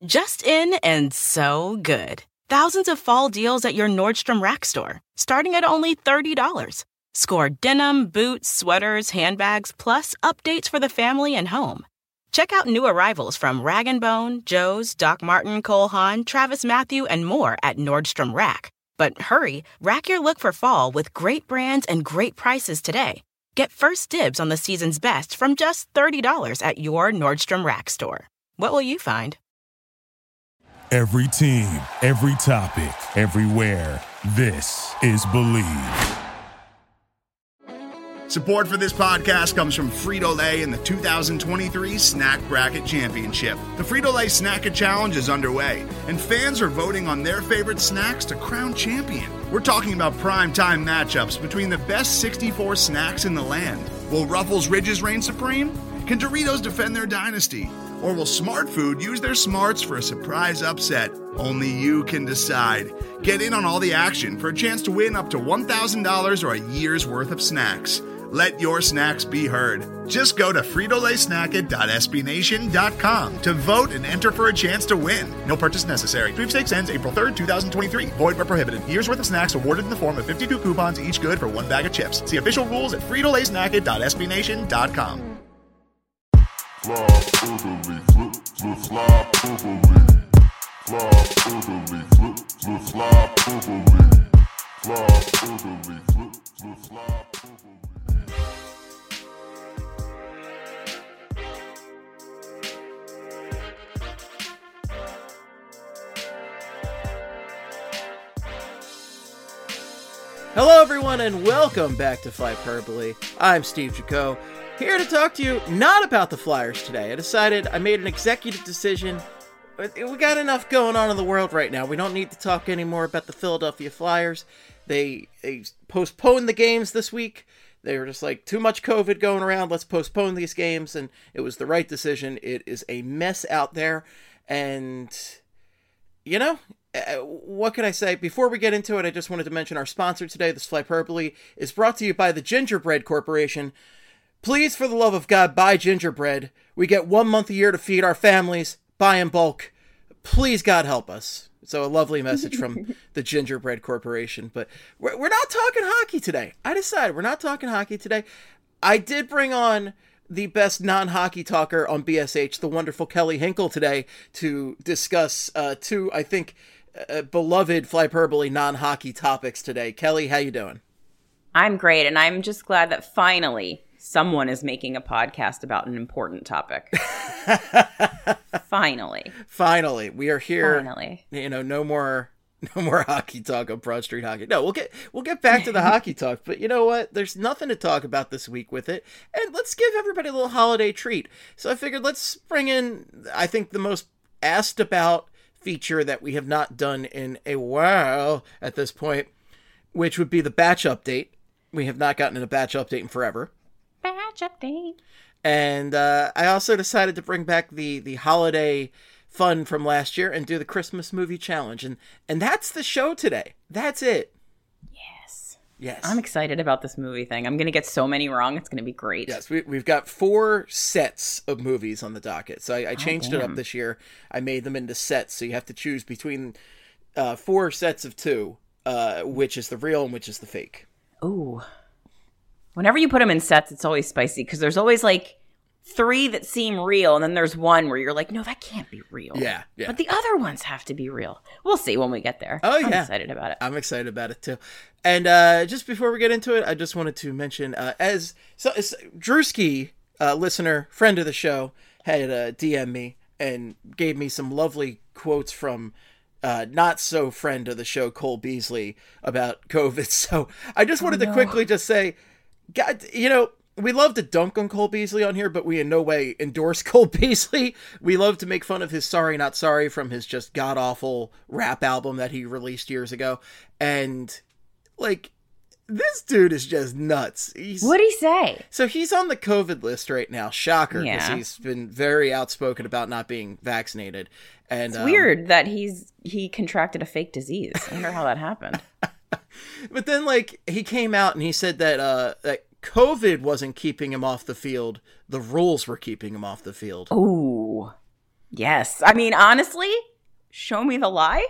Just in and so good. Thousands of fall deals at your Nordstrom Rack store, starting at only $30. Score denim, boots, sweaters, handbags, plus updates for the family and home. Check out new arrivals from Rag & Bone, Joe's, Doc Marten, Cole Haan, Travis Mathew, and more at Nordstrom Rack. But hurry, rack your look for fall with great brands and great prices today. Get first dibs on the season's best from just $30 at your Nordstrom Rack store. What will you find? Every team, every topic, everywhere. This is Believe. Support for this podcast comes from Frito-Lay and the 2023 Snack Bracket Championship. The Frito-Lay Snack-It Challenge is underway, and fans are voting on their favorite snacks to crown champion. We're talking about prime-time matchups between the best 64 snacks in the land. Will Ruffles Ridges reign supreme? Can Doritos defend their dynasty? Or will Smart Food use their smarts for a surprise upset? Only you can decide. Get in on all the action for a chance to win up to $1,000 or a year's worth of snacks. Let your snacks be heard. Just go to fritolaysnacket.sbnation.com to vote and enter for a chance to win. No purchase necessary. Sweepstakes ends April 3rd, 2023. Void where prohibited. Year's worth of snacks awarded in the form of 52 coupons, each good for one bag of chips. See official rules at fritolaysnacket.sbnation.com. Fly orderly, flip, fly orderly. Fly orderly, flip, fly orderly. Fly orderly, flip, fly orderly. Hello everyone and welcome back to Flyperbole. I'm Steve Jaco, here to talk to you not about the Flyers today. I made an executive decision. We got enough going on in the world right now. We don't need to talk anymore about the Philadelphia Flyers. They postponed the games this week. They were just like, too much COVID going around, let's postpone these games, and it was the right decision. It is a mess out there, and, you know, what can I say? Before we get into it, I just wanted to mention our sponsor today, this Flyperbole, is brought to you by the Gingerbread Corporation. Please, for the love of God, buy gingerbread. We get 1 month a year to feed our families. Buy in bulk. Please, God, help us. So a lovely message from the Gingerbread Corporation. But we're not talking hockey today. I decided we're not talking hockey today. I did bring on the best non-hockey talker on BSH, the wonderful Kelly Hinkle, today to discuss two, I think, beloved Flyperbole non-hockey topics today. Kelly, how you doing? I'm great, and I'm just glad that finally someone is making a podcast about an important topic. Finally, we are here. Finally, you know, no more hockey talk on Broad Street Hockey. No, we'll get back to the hockey talk. But you know what? There's nothing to talk about this week with it, and let's give everybody a little holiday treat. So I figured let's bring in, I think, the most asked about feature that we have not done in a while at this point, which would be the batch update. We have not gotten a batch update in forever. Batch update. And I also decided to bring back the holiday fun from last year and do the Christmas movie challenge. And that's the show today. That's it. Yes. I'm excited about this movie thing. I'm going to get so many wrong. It's going to be great. Yes, we've got 4 sets of movies on the docket. So I changed it up this year. I made them into sets. So you have to choose between 4 sets of 2, which is the real and which is the fake. Ooh. Whenever you put them in sets, it's always spicy because there's always like 3 that seem real, and then there's one where you're like, no, that can't be real. Yeah. But the other ones have to be real. We'll see when we get there. Oh, yeah. I'm excited about it. I'm excited about it, too. And just before we get into it, I just wanted to mention, as Drewski, listener, friend of the show, had DM'd me and gave me some lovely quotes from not so friend of the show, Cole Beasley, about COVID. So I just wanted to quickly just say, God, you know, we love to dunk on Cole Beasley on here, but we in no way endorse Cole Beasley. We love to make fun of his Sorry Not Sorry from his just god-awful rap album that he released years ago. And, like, this dude is just nuts. What'd he say? So he's on the COVID list right now. Shocker, because Yeah. he's been very outspoken about not being vaccinated. And It's weird that he contracted a fake disease. I wonder how that happened. But then, like, he came out and he said that that COVID wasn't keeping him off the field. The rules were keeping him off the field. Ooh. Yes. I mean, honestly, show me the lie.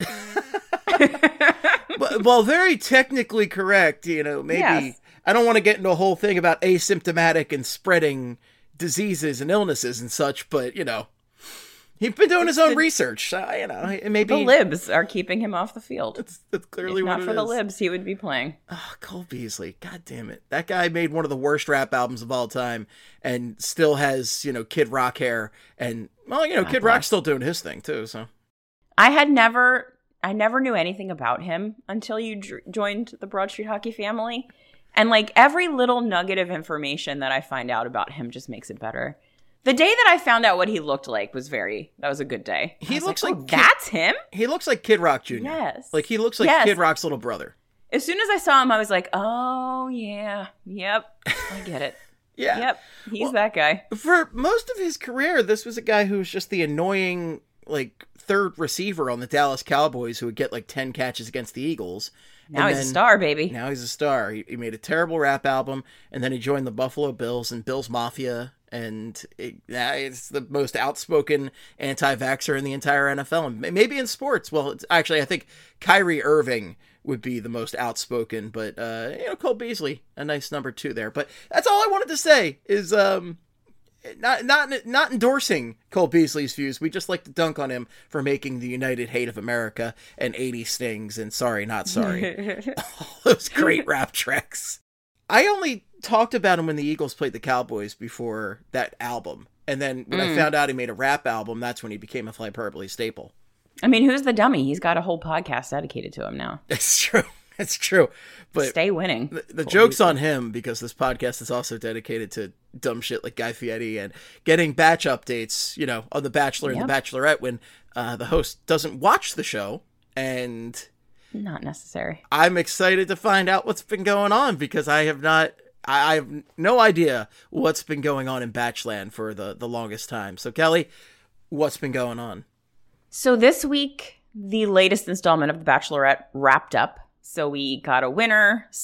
Well, very technically correct, maybe. Yes. I don't want to get into a whole thing about asymptomatic and spreading diseases and illnesses and such, but, he's been doing his own research. Maybe The libs are keeping him off the field. That's clearly If what not it for is. the libs, he would be playing. Oh, Cole Beasley. God damn it. That guy made one of the worst rap albums of all time and still has, Kid Rock hair. And, well, Kid Rock's still doing his thing, too, so. I never knew anything about him until you joined the Broad Street Hockey family. And like every little nugget of information that I find out about him just makes it better. The day that I found out what he looked like that was a good day. He looks like that's him? He looks like Kid Rock Jr. Yes. Like he looks like Yes. Kid Rock's little brother. As soon as I saw him, I was like, oh, yeah. Yep. I get it. Yeah. Yep. He's that guy. For most of his career, this was a guy who was just the annoying, like, third receiver on the Dallas Cowboys who would get like 10 catches against the Eagles. Now he's a star, baby. Now he's a star. He made a terrible rap album, and then he joined the Buffalo Bills and Bills Mafia, and it's the most outspoken anti-vaxxer in the entire NFL, and maybe in sports. Well, I think Kyrie Irving would be the most outspoken, but Cole Beasley, a nice number 2 there. But that's all I wanted to say is not endorsing Cole Beasley's views. We just like to dunk on him for making the United Hate of America and 80 Stings and Sorry Not Sorry. All those great rap tracks. I only talked about him when the Eagles played the Cowboys before that album. And then when I found out he made a rap album, that's when he became a Flyperbole staple. I mean, who's the dummy? He's got a whole podcast dedicated to him now. It's true. It's true. But stay winning. The joke's on him because this podcast is also dedicated to dumb shit like Guy Fieri and getting batch updates, on The Bachelor and The Bachelorette when the host doesn't watch the show. And not necessary. I'm excited to find out what's been going on because I have no idea what's been going on in Batchland for the longest time. So Kelly, what's been going on? So this week, the latest installment of The Bachelorette wrapped up. So we got a winner /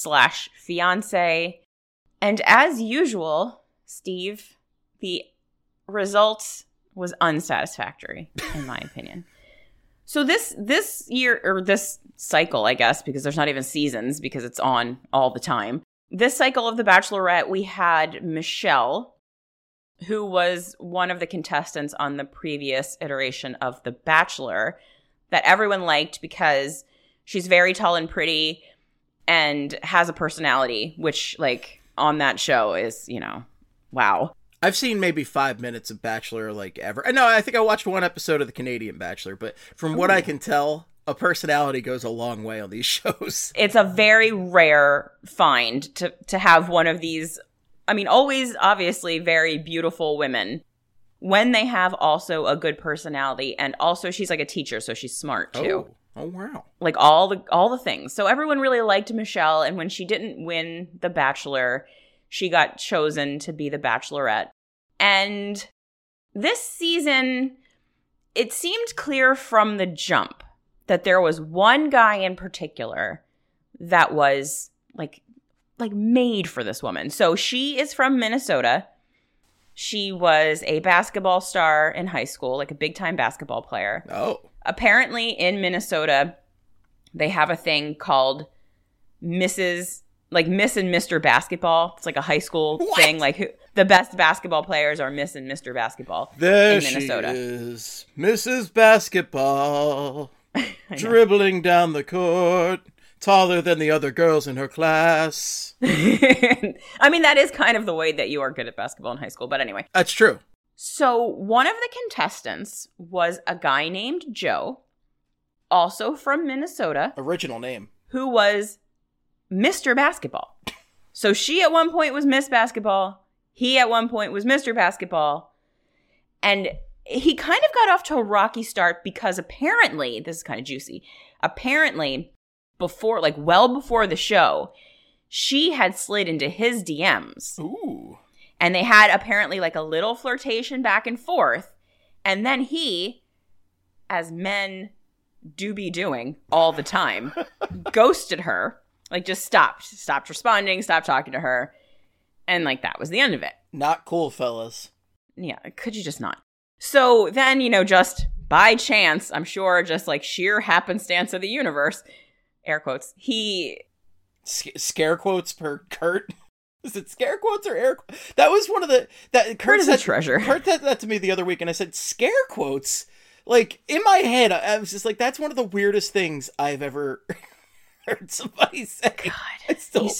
fiance. And as usual, Steve, the result was unsatisfactory, in my opinion. So this year, or this cycle, I guess, because there's not even seasons because it's on all the time. This cycle of The Bachelorette, we had Michelle, who was one of the contestants on the previous iteration of The Bachelor that everyone liked because she's very tall and pretty and has a personality, which, like, on that show is, wow. I've seen maybe 5 minutes of Bachelor, ever. No, I think I watched one episode of the Canadian Bachelor, but from what I can tell, a personality goes a long way on these shows. It's a very rare find to have one of these, always obviously very beautiful women, when they have also a good personality, and also she's like a teacher, so she's smart too. Oh, wow. Like all the things. So everyone really liked Michelle, and when she didn't win The Bachelor, she got chosen to be the Bachelorette. And this season, it seemed clear from the jump that there was one guy in particular that was like made for this woman. So she is from Minnesota. She was a basketball star in high school, like a big-time basketball player. Oh. Apparently in Minnesota, they have a thing called Miss and Mr. Basketball. It's like a high school thing. Like the best basketball players are Miss and Mr. Basketball in Minnesota. She is Mrs. Basketball, dribbling down the court, taller than the other girls in her class. That is kind of the way that you are good at basketball in high school. But anyway. That's true. So one of the contestants was a guy named Joe, also from Minnesota. Original name. Who was Mr. Basketball. So she at one point was Miss Basketball. He at one point was Mr. Basketball. And he kind of got off to a rocky start because apparently, this is kind of juicy, apparently well before the show, she had slid into his DMs. Ooh. And they had apparently like a little flirtation back and forth. And then he, as men do be doing all the time, ghosted her. Like just stopped responding, stopped talking to her. And that was the end of it. Not cool, fellas. Yeah, could you just not? So then, just by chance, I'm sure, just like sheer happenstance of the universe, air quotes, he... Scare quotes per Kurt? Is it scare quotes or air quotes? That was one of the... Kurt is a treasure. Kurt said that to me the other week, and I said, scare quotes? Like, in my head, I was just like, that's one of the weirdest things I've ever heard somebody say. God,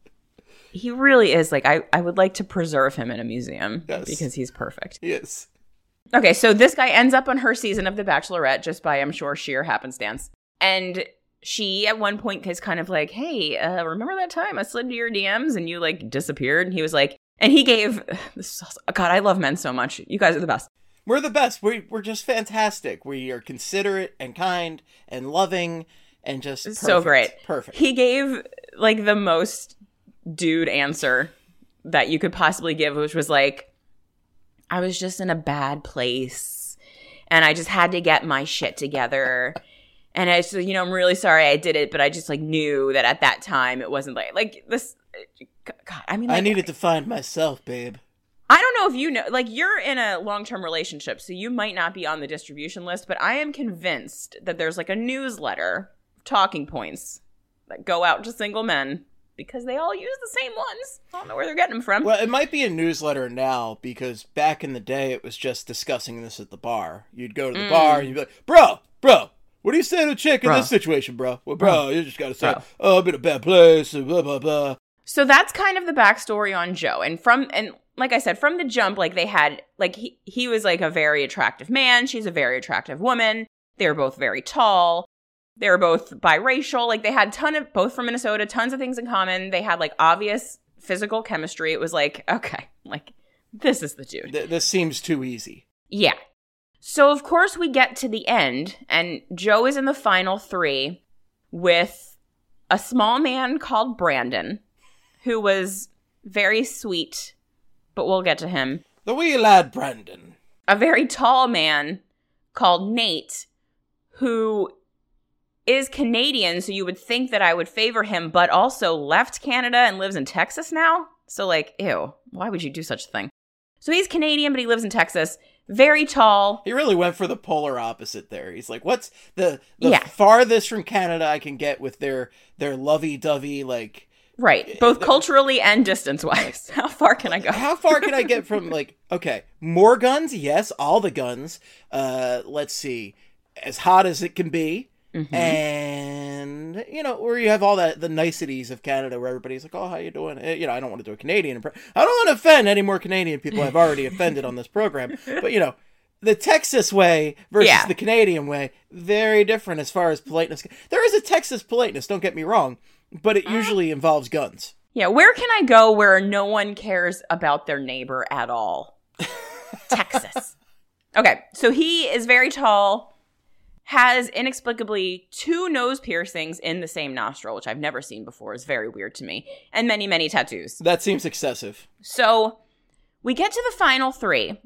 he really is. Like, I would like to preserve him in a museum because he's perfect. Yes. Okay, so this guy ends up on her season of The Bachelorette just by, I'm sure, sheer happenstance. And she, at one point, is kind of like, hey, remember that time I slid into your DMs and you, like, disappeared? And he was like, and he gave, God, I love men so much. You guys are the best. We're the best. We're just fantastic. We are considerate and kind and loving and just perfect. So great. Perfect. He gave, like, the most dude answer that you could possibly give, which was like, I was just in a bad place and I just had to get my shit together. And I just, I'm really sorry I did it, but I just like knew that at that time it wasn't like this. God, I mean, like, I needed to find myself, babe. I don't know if you know, like, you're in a long-term relationship, so you might not be on the distribution list, but I am convinced that there's like a newsletter, talking points that go out to single men. Because they all use the same ones. I don't know where they're getting them from. Well, it might be a newsletter now, because back in the day, it was just discussing this at the bar. You'd go to the bar, and you'd be like, bro, what do you say to a chick in this situation, bro? Well, bro, you just gotta say, oh, I'm in a bad place, blah, blah, blah. So that's kind of the backstory on Joe. And like I said, from the jump, like, they had, like, he was, like, a very attractive man. She's a very attractive woman. They were both very tall. They were both biracial. Like, they had both from Minnesota, tons of things in common. They had, like, obvious physical chemistry. It was like, okay, like, this is the dude. This seems too easy. Yeah. So, of course, we get to the end, and Joe is in the final 3 with a small man called Brandon, who was very sweet, but we'll get to him. The wee lad Brandon. A very tall man called Nate, who is Canadian, so you would think that I would favor him, but also left Canada and lives in Texas now. So, like, ew, why would you do such a thing? So he's Canadian, but he lives in Texas. Very tall. He really went for the polar opposite there. He's like, what's the farthest from Canada I can get with their lovey-dovey, like... Right, both culturally and distance-wise. How far can I go? How far can I get from, like, okay, more guns? Yes, all the guns. Let's see, as hot as it can be. Mm-hmm. And, where you have all the niceties of Canada where everybody's like, oh, how you doing? I don't want to do a Canadian impression. I don't want to offend any more Canadian people I've already offended on this program. But, the Texas way versus the Canadian way, very different as far as politeness. There is a Texas politeness, don't get me wrong, but it usually involves guns. Yeah, where can I go where no one cares about their neighbor at all? Texas. Okay, so he is very tall, has inexplicably 2 nose piercings in the same nostril, which I've never seen before. It's very weird to me. And many, many tattoos. That seems excessive. So we get to the final 3.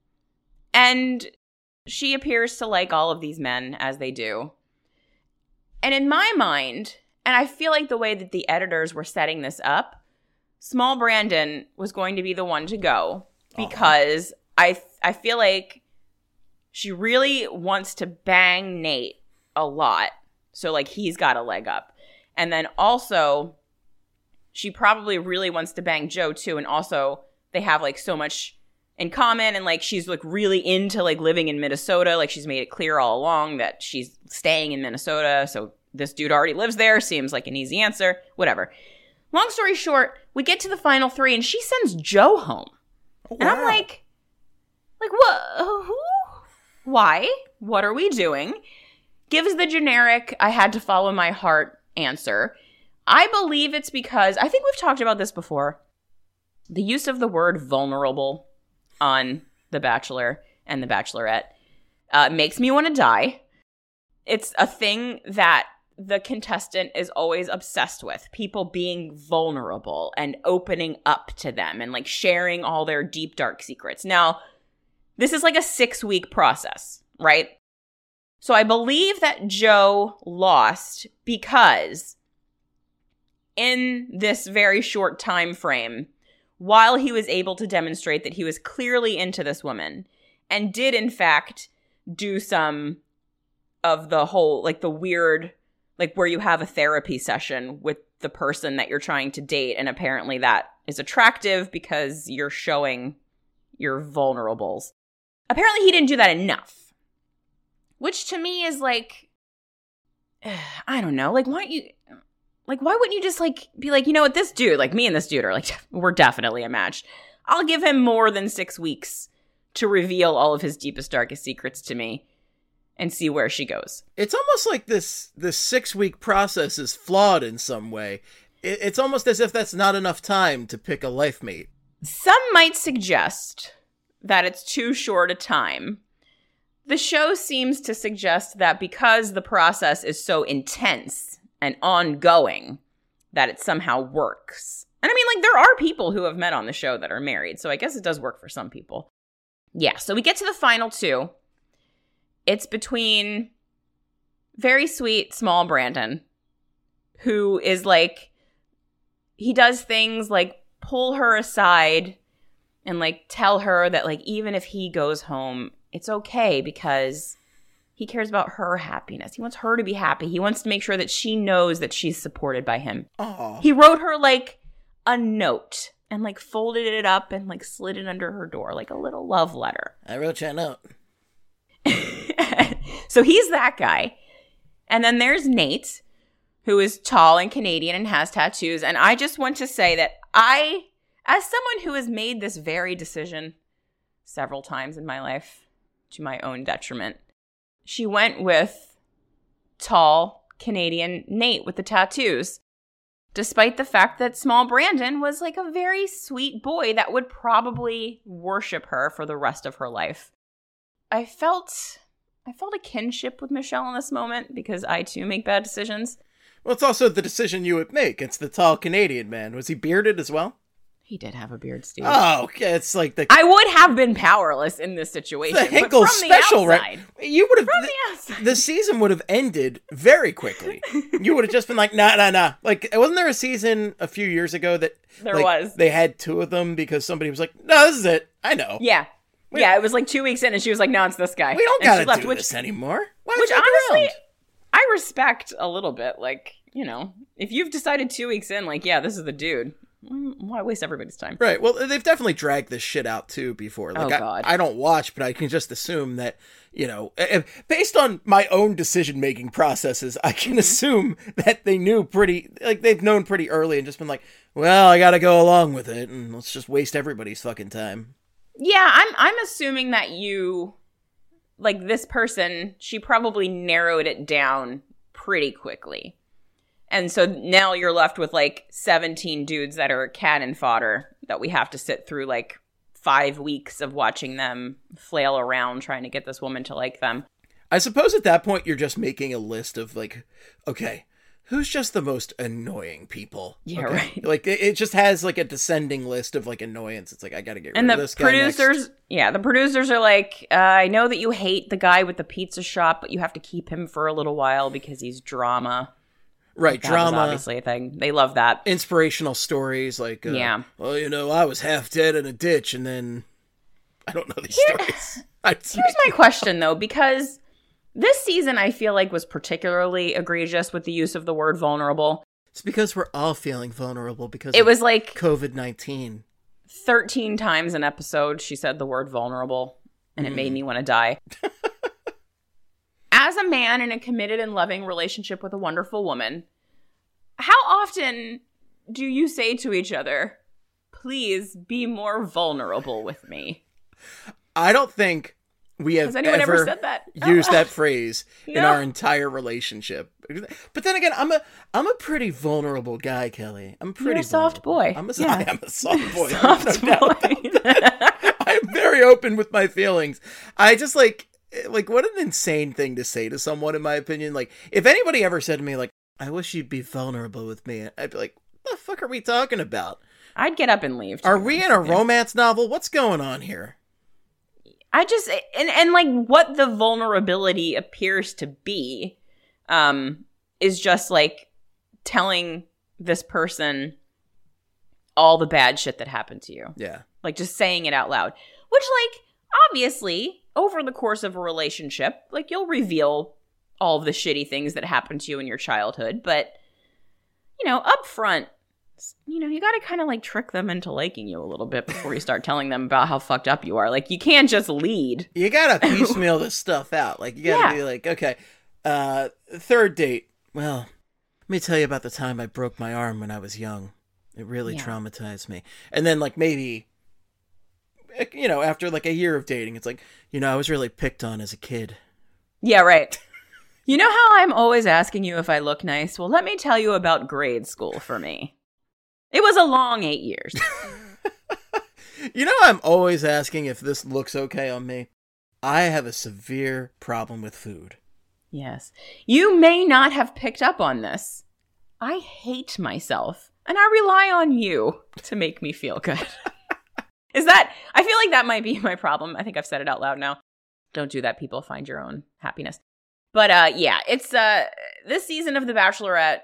And she appears to like all of these men, as they do. And in my mind, and I feel like the way that the editors were setting this up, small Brandon was going to be the one to go. Because I feel like she really wants to bang Nate a lot. So, like, he's got a leg up. And then also, she probably really wants to bang Joe, too. And also, they have, like, so much in common. And, like, she's, like, really into, like, living in Minnesota. Like, she's made it clear all along that she's staying in Minnesota. So, this dude already lives there. Seems like an easy answer. Whatever. Long story short, we get to the final 3, and she sends Joe home. Oh, wow. And I'm like, what? Who? Why? What are we doing? Gives the generic, I had to follow my heart answer. I believe it's because, I think we've talked about this before, the use of the word vulnerable on The Bachelor and The Bachelorette makes me want to die. It's a thing that the contestant is always obsessed with. People being vulnerable and opening up to them and, like, sharing all their deep, dark secrets. Now, this is like a 6-week process, right? So I believe that Joe lost because in this very short time frame, while he was able to demonstrate that he was clearly into this woman and did in fact do some of the whole, like, the weird, like, where you have a therapy session with the person that you're trying to date, and apparently that is attractive because you're showing your vulnerables. Apparently he didn't do that enough, which to me is like, I don't know, like, why wouldn't you just, like, be like, you know what, this dude, like, me and this dude are, like, we're definitely a match. I'll give him more than 6 weeks to reveal all of his deepest, darkest secrets to me and see where she goes. It's almost like this 6-week process is flawed in some way. It's almost as if that's not enough time to pick a life mate. Some might suggest that it's too short a time. The show seems to suggest that because the process is so intense and ongoing, that it somehow works. And I mean, like, there are people who have met on the show that are married, so I guess it does work for some people. Yeah, so we get to the final 2. It's between very sweet, small Brandon, who is like, he does things like pull her aside and, like, tell her that, like, even if he goes home, it's okay because he cares about her happiness. He wants her to be happy. He wants to make sure that she knows that she's supported by him. Aww. He wrote her, like, a note and, like, folded it up and, like, slid it under her door, like a little love letter. I wrote you a note. So he's that guy. And then there's Nate, who is tall and Canadian and has tattoos. And I just want to say that I, as someone who has made this very decision several times in my life to my own detriment, she went with tall Canadian Nate with the tattoos, despite the fact that small Brandon was like a very sweet boy that would probably worship her for the rest of her life. I felt a kinship with Michelle in this moment because I too make bad decisions. Well, it's also the decision you would make. It's the tall Canadian man. Was he bearded as well? He did have a beard, Steve. Oh, okay. It's like the... I would have been powerless in this situation. The Hinkle but from special, the right? You would have... From the outside. The season would have ended very quickly. You would have just been like, nah. Like, wasn't there a season a few years ago that... There was. They had 2 of them because somebody was like, no, this is it. I know. Yeah. Yeah, it was like 2 weeks in and she was like, no, it's this guy. We don't and gotta do this anymore. Which honestly, I respect a little bit. Like, you know, if you've decided 2 weeks in, like, yeah, this is the dude, why waste everybody's time? Right. Well, they've definitely dragged this shit out too before. Like, God. I don't watch, but I can just assume that, you know, based on my own decision-making processes, I can assume that they knew they've known pretty early and just been like, well, I gotta go along with it and let's just waste everybody's fucking time. Yeah, I'm assuming that you, like, this person, she probably narrowed it down pretty quickly. And so now you're left with, like, 17 dudes that are cannon fodder that we have to sit through, like, 5 weeks of watching them flail around trying to get this woman to like them. I suppose at that point you're just making a list of, like, okay, who's just the most annoying people? Yeah, okay? right. Like, it just has, like, a descending list of, like, annoyance. It's like, I gotta get rid of this guy next. The producers are like, I know that you hate the guy with the pizza shop, but you have to keep him for a little while because he's drama. Right, That drama. was obviously a thing. They love that. Inspirational stories, like, well, you know, I was half dead in a ditch, and then, I don't know these stories. Here's my question, though, because this season, I feel like, was particularly egregious with the use of the word vulnerable. It's because we're all feeling vulnerable because it was like COVID-19. 13 times an episode, she said the word vulnerable, and it made me want to die. As a man in a committed and loving relationship with a wonderful woman, how often do you say to each other, please be more vulnerable with me? I don't think we have Has anyone ever said that? used that phrase in No. our entire relationship. But then again, I'm a pretty vulnerable guy, Kelly. I'm pretty You're a soft vulnerable. boy. I Yeah. am a soft boy. Soft There's no doubt boy. about that. I'm very open with my feelings. I just like what an insane thing to say to someone, in my opinion. Like, if anybody ever said to me, like, I wish you'd be vulnerable with me, I'd be like, what the fuck are we talking about? I'd get up and leave. Are we in a romance novel? What's going on here? I just, and like what the vulnerability appears to be, is just like telling this person all the bad shit that happened to you. Yeah. Like just saying it out loud, which like, obviously, over the course of a relationship, like, you'll reveal all of the shitty things that happened to you in your childhood. But, you know, up front, you know, you got to kind of, like, trick them into liking you a little bit before you start telling them about how fucked up you are. Like, you can't just lead. You got to piecemeal this stuff out. Like, you got to be like, okay, third date. Well, let me tell you about the time I broke my arm when I was young. It really traumatized me. And then, like, maybe, you know, after, like, a year of dating, it's like, you know, I was really picked on as a kid. Yeah, right. You know how I'm always asking you if I look nice? Well, let me tell you about grade school for me. It was a long 8 years. You know, I'm always asking if this looks okay on me. I have a severe problem with food. Yes. You may not have picked up on this. I hate myself, and I rely on you to make me feel good. I feel like that might be my problem. I think I've said it out loud now. Don't do that, people. Find your own happiness. But yeah, it's this season of The Bachelorette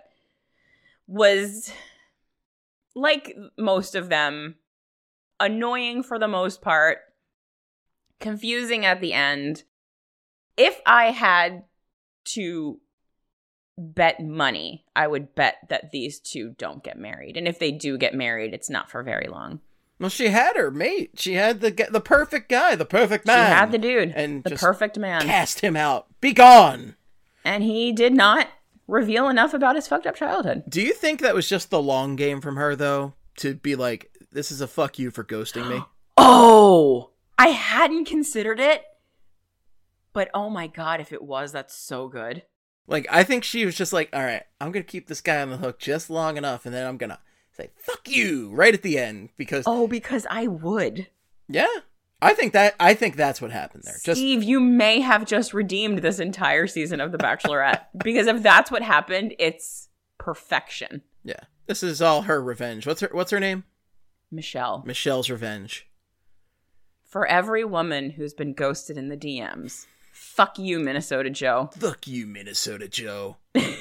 was, like most of them, annoying for the most part, confusing at the end. If I had to bet money, I would bet that these two don't get married. And if they do get married, it's not for very long. Well, she had her mate. She had the perfect guy, the perfect man. She had the dude, and the perfect man. Cast him out. Be gone. And he did not reveal enough about his fucked up childhood. Do you think that was just the long game from her, though? To be like, this is a fuck you for ghosting me? Oh! I hadn't considered it. But oh my god, if it was, that's so good. Like, I think she was just like, all right, I'm going to keep this guy on the hook just long enough, and then I'm going to say, fuck you, right at the end. Because I would. Yeah. I think that's what happened there. Steve, you may have just redeemed this entire season of The Bachelorette. Because if that's what happened, it's perfection. Yeah. This is all her revenge. What's her name? Michelle. Michelle's revenge. For every woman who's been ghosted in the DMs. Fuck you, Minnesota Joe. Fuck you, Minnesota Joe.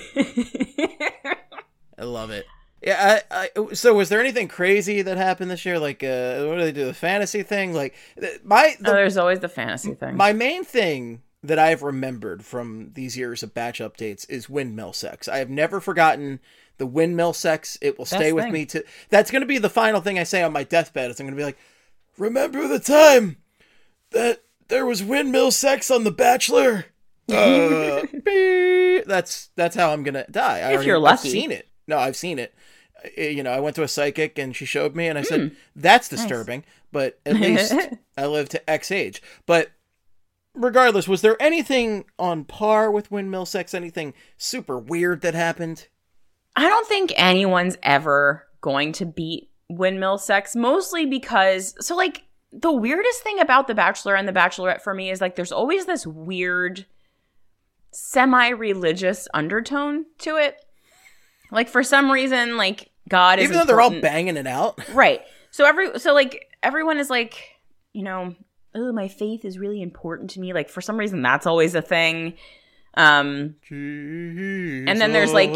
I love it. Yeah, so was there anything crazy that happened this year? Like, what do they do? The fantasy thing? Like, there's always the fantasy thing. My main thing that I've remembered from these years of batch updates is windmill sex. I have never forgotten the windmill sex. It will stay with me to. That's going to be the final thing I say on my deathbed. Is I'm going to be like, remember the time that there was windmill sex on The Bachelor? That's how I'm going to die. If you're lucky. I've seen it. No, I've seen it. You know, I went to a psychic and she showed me and I said, that's disturbing, but at least I live to X age. But regardless, was there anything on par with windmill sex? Anything super weird that happened? I don't think anyone's ever going to beat windmill sex, mostly because, so like, the weirdest thing about The Bachelor and The Bachelorette for me is like, there's always this weird semi-religious undertone to it. Like, for some reason, like, God is even though they're all banging it out. Right. So everyone is like, you know, oh, my faith is really important to me. Like, for some reason, that's always a thing. And then there's, like,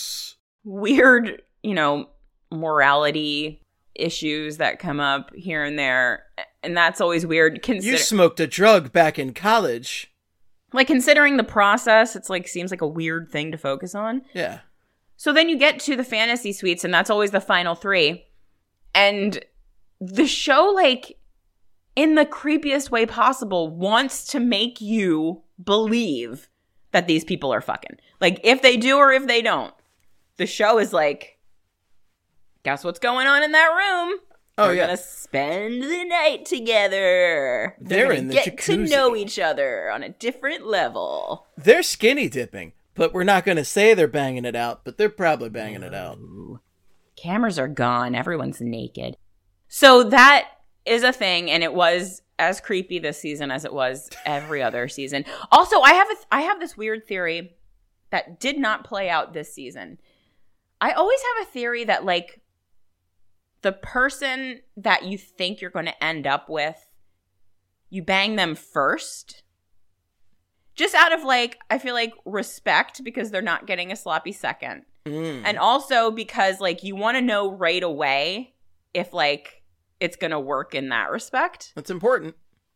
weird, you know, morality issues that come up here and there. And that's always weird. You smoked a drug back in college. Like, considering the process, it's, like, seems like a weird thing to focus on. Yeah. So then you get to the fantasy suites, and that's always the final three. And the show, like, in the creepiest way possible, wants to make you believe that these people are fucking. Like, if they do or if they don't. The show is like, guess what's going on in that room? Oh, They're yeah. gonna spend the night together. They're gonna in the get jacuzzi. to know each other on a different level. They're skinny dipping. But we're not going to say they're banging it out, but they're probably banging it out. Cameras are gone. Everyone's naked. So that is a thing, and it was as creepy this season as it was every other season. Also, I have this weird theory that did not play out this season. I always have a theory that, like, the person that you think you're going to end up with, you bang them first. Just out of, like, I feel like respect because they're not getting a sloppy second. And also because, like, you want to know right away if, like, it's going to work in that respect. That's important.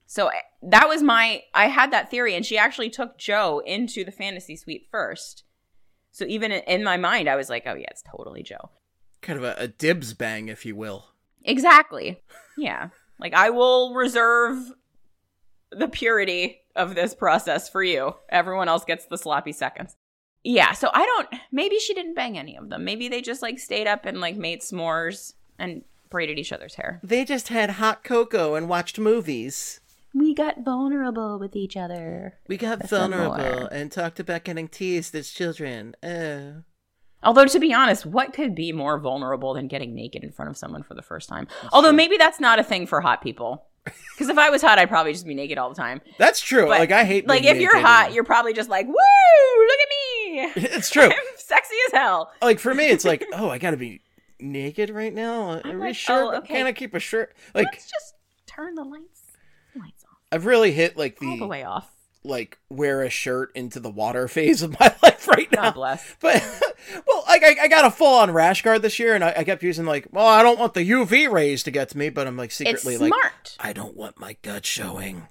So that was I had that theory, and she actually took Joe into the fantasy suite first. So even in my mind, I was like, oh yeah, it's totally Joe. Kind of a dibs bang, if you will. Exactly. Yeah. Like, I will reserve the purity of this process for you. Everyone else gets the sloppy seconds. Yeah, so maybe she didn't bang any of them. Maybe they just, like, stayed up and, like, made s'mores and braided each other's hair. They just had hot cocoa and watched movies. We got vulnerable with each other. We got vulnerable and talked about getting teased as children. Oh. Although, to be honest, what could be more vulnerable than getting naked in front of someone for the first time? Although maybe that's not a thing for hot people. Because if I was hot, I'd probably just be naked all the time. That's true. But, like, I hate like, being if you're naked. hot, you're probably just like, woo, look at me. It's true. I'm sexy as hell. Like, for me, it's like, oh, I gotta be naked right now? Are we sure? oh, okay. Can't I keep a shirt? Like, Let's just turn the lights off. I've really hit, like, All the way off. like, wear a shirt into the water phase of my life right now. God bless. But, well, like, I got a full-on rash guard this year, and I kept using, like, well, I don't want the UV rays to get to me, but I'm, like, secretly, It's like, smart. I don't want my gut showing.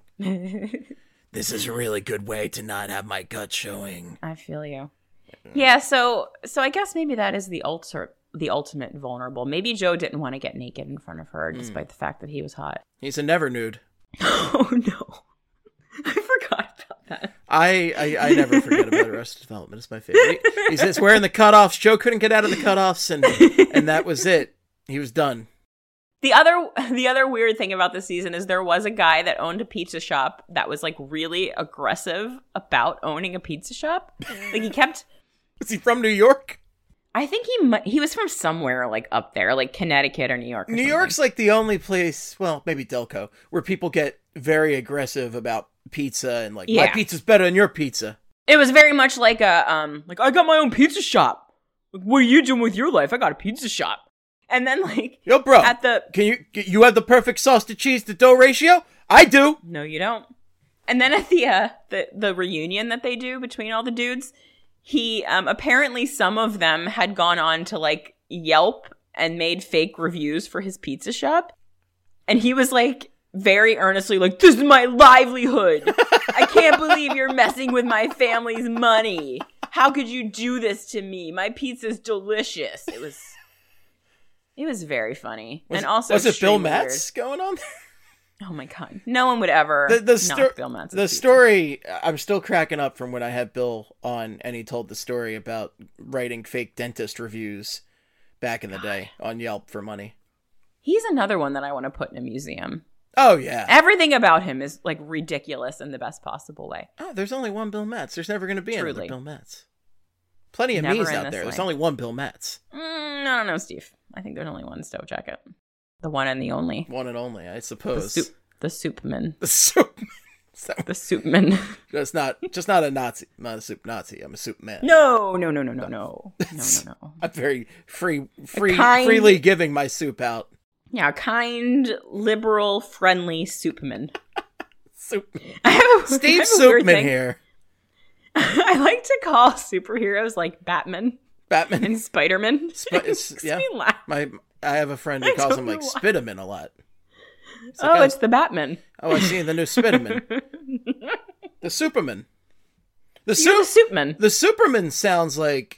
This is a really good way to not have my gut showing. I feel you. Yeah, so I guess maybe that is the ultimate vulnerable. Maybe Joe didn't want to get naked in front of her, despite the fact that he was hot. He's a never nude. Oh, no. I forgot about that. I never forget about Arrested Development. It's my favorite. He's just wearing the cutoffs. Joe couldn't get out of the cutoffs, and that was it. He was done. The other weird thing about this season is there was a guy that owned a pizza shop that was, like, really aggressive about owning a pizza shop. Like, he kept... Is he from New York? I think he was from somewhere, like, up there, like Connecticut or New York. New York's like the only place, well, maybe Delco, where people get very aggressive about pizza and like, my pizza's better than your pizza. It was very much like I got my own pizza shop. Like, what are you doing with your life? I got a pizza shop. And then, like, yo, bro, at the... Can you have the perfect sauce to cheese to dough ratio? I do. No, you don't. And then at the reunion that they do between all the dudes, he, apparently some of them had gone on to, like, Yelp and made fake reviews for his pizza shop. And he was, like, very earnestly like, this is my livelihood. I can't believe you're messing with my family's money. How could you do this to me? My pizza's delicious. It was very funny. Was it Bill Matz going on there? Oh my God. No one would ever knock Bill Matz. The story, I'm still cracking up from when I had Bill on and he told the story about writing fake dentist reviews back in the day on Yelp for money. He's another one that I want to put in a museum. Oh, yeah. Everything about him is, like, ridiculous in the best possible way. Oh, there's only one Bill Matz. There's never going to be another Bill Matz. Plenty of me's out there. There's only one Bill Matz. I don't know, Steve. I think there's only one Stove Jacket. The one and the only. One and only, I suppose. The Soupman. The Soupman. The Soupman. Just not a Nazi. I'm not a soup Nazi. I'm a soup man. No. I'm very freely giving my soup out. Yeah, kind, liberal, friendly Soupman. Soupman. Steve Soupman here. I like to call superheroes like Batman and Spider-Man. Yeah. Me laugh. I have a friend who calls him like Spiderman a lot. It's the Batman. Oh, I see the new Spiderman. The Superman. The Superman. The Superman sounds like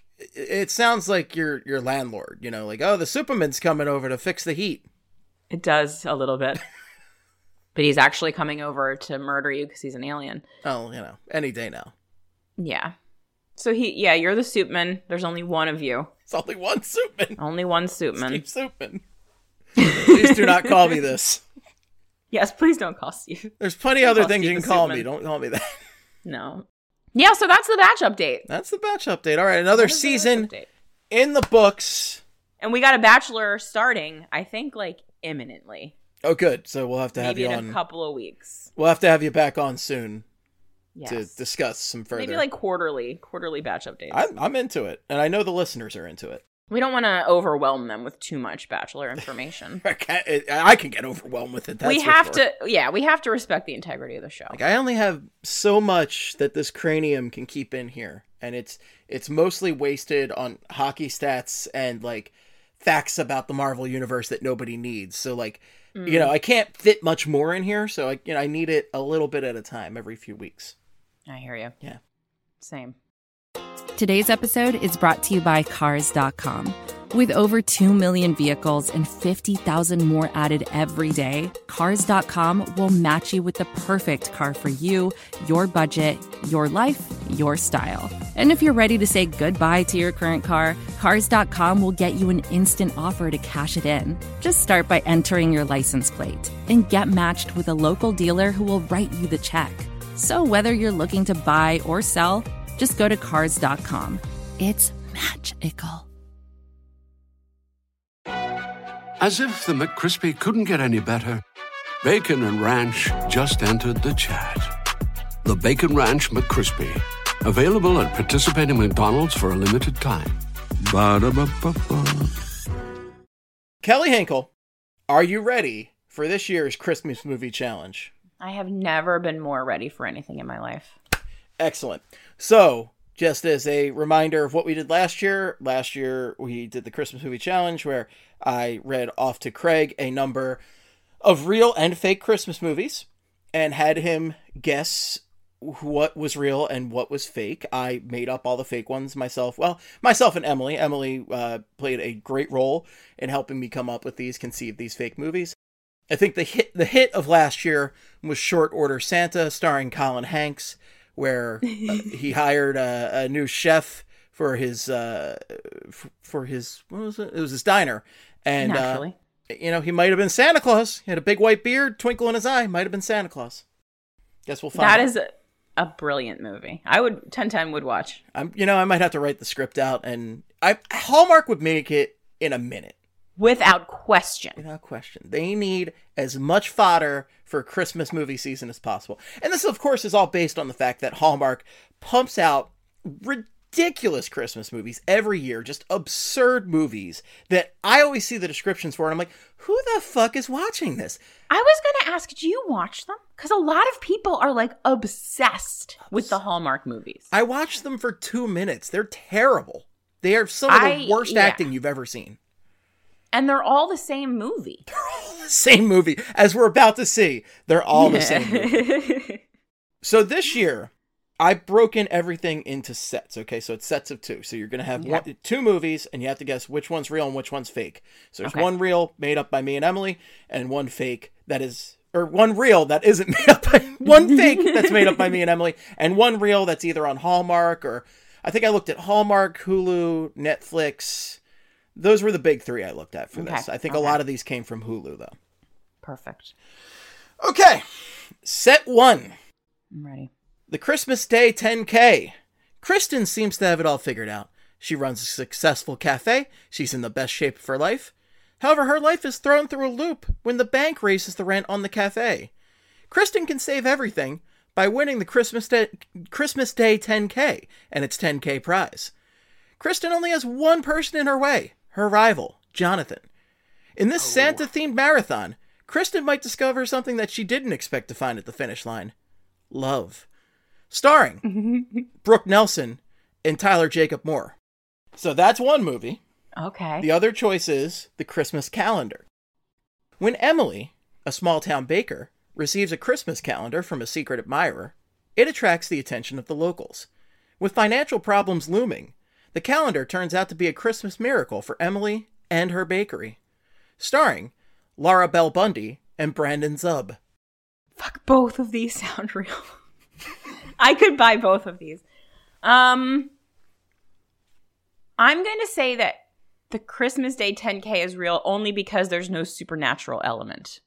your landlord. You know, like, oh, the Superman's coming over to fix the heat. It does a little bit. But he's actually coming over to murder you because he's an alien. Oh, any day now. Yeah. So you're the Soupman. There's only one of you. It's only one Soupman. Only one Soupman. Steve Soupman. Please do not call me this. Yes, please don't call Steve. There's plenty other things you can call me. Don't call me that. No. Yeah, so that's the batch update. That's the batch update. All right, another season in the books. And we got a Bachelor starting, I think, like, imminently. Oh, good. So we'll have to have you on. Maybe in a couple of weeks. We'll have to have you back on soon. Yes. To discuss some further. Maybe like quarterly batch updates. I'm into it, and I know the listeners are into it. We don't want to overwhelm them with too much Bachelor information. I can get overwhelmed with it. We have to respect the integrity of the show. Like, I only have so much that this cranium can keep in here, and it's mostly wasted on hockey stats and like facts about the Marvel universe that nobody needs. So like You know, I can't fit much more in here, so I need it a little bit at a time every few weeks. I hear you. Yeah. Same. Today's episode is brought to you by Cars.com. With over 2 million vehicles and 50,000 more added every day, Cars.com will match you with the perfect car for you, your budget, your life, your style. And if you're ready to say goodbye to your current car, Cars.com will get you an instant offer to cash it in. Just start by entering your license plate and get matched with a local dealer who will write you the check. So whether you're looking to buy or sell, just go to Cars.com. It's magical. As if the McCrispy couldn't get any better, Bacon and Ranch just entered the chat. The Bacon Ranch McCrispy, available at participating McDonald's for a limited time. Ba-da-ba-ba-ba. Kelly Hinkle, are you ready for this year's Christmas movie challenge? I have never been more ready for anything in my life. Excellent. So, just as a reminder of what we did last year we did the Christmas movie challenge where I read off to Craig a number of real and fake Christmas movies and had him guess what was real and what was fake. I made up all the fake ones myself. Well, myself and Emily. Emily played a great role in helping me come up with conceive these fake movies. I think the hit of last year was Short Order Santa, starring Colin Hanks, where he hired a new chef for his what was it? It was his diner, and Naturally. He might have been Santa Claus. He had a big white beard, twinkle in his eye. Might have been Santa Claus. Guess we'll find out. That is a brilliant movie. I would 10 would watch. I might have to write the script out, and Hallmark would make it in a minute. Without question. Without question. They need as much fodder for Christmas movie season as possible. And this, of course, is all based on the fact that Hallmark pumps out ridiculous Christmas movies every year. Just absurd movies that I always see the descriptions for, and I'm like, who the fuck is watching this? I was going to ask, do you watch them? Because a lot of people are like obsessed with the Hallmark movies. I watched them for 2 minutes. They're terrible. They are some of the worst acting you've ever seen. And they're all the same movie. They're all the same movie. As we're about to see, they're all the same movie. So this year, I've broken everything into sets, okay? So it's sets of 2. So you're going to have 2 movies, and you have to guess which one's real and which one's fake. So there's one real made up by me and Emily, and one fake that is... Or one real that isn't made up by... One fake that's made up by me and Emily, and one real that's either on Hallmark or... I think I looked at Hallmark, Hulu, Netflix... Those were the big 3 I looked at for this. I think a lot of these came from Hulu, though. Perfect. Okay. Set 1. I'm ready. The Christmas Day 10K. Kristen seems to have it all figured out. She runs a successful cafe. She's in the best shape of her life. However, her life is thrown through a loop when the bank raises the rent on the cafe. Kristen can save everything by winning the Christmas Day 10K and its 10K prize. Kristen only has one person in her way. Her rival, Jonathan. In this Santa-themed marathon, Kristen might discover something that she didn't expect to find at the finish line. Love. Starring Brooke Nelson and Tyler Jacob Moore. So that's one movie. Okay. The other choice is The Christmas Calendar. When Emily, a small-town baker, receives a Christmas calendar from a secret admirer, it attracts the attention of the locals. With financial problems looming, the calendar turns out to be a Christmas miracle for Emily and her bakery. Starring Laura Bell Bundy and Brandon Zub. Fuck, both of these sound real. I could buy both of these. I'm going to say that the Christmas Day 10K is real only because there's no supernatural element.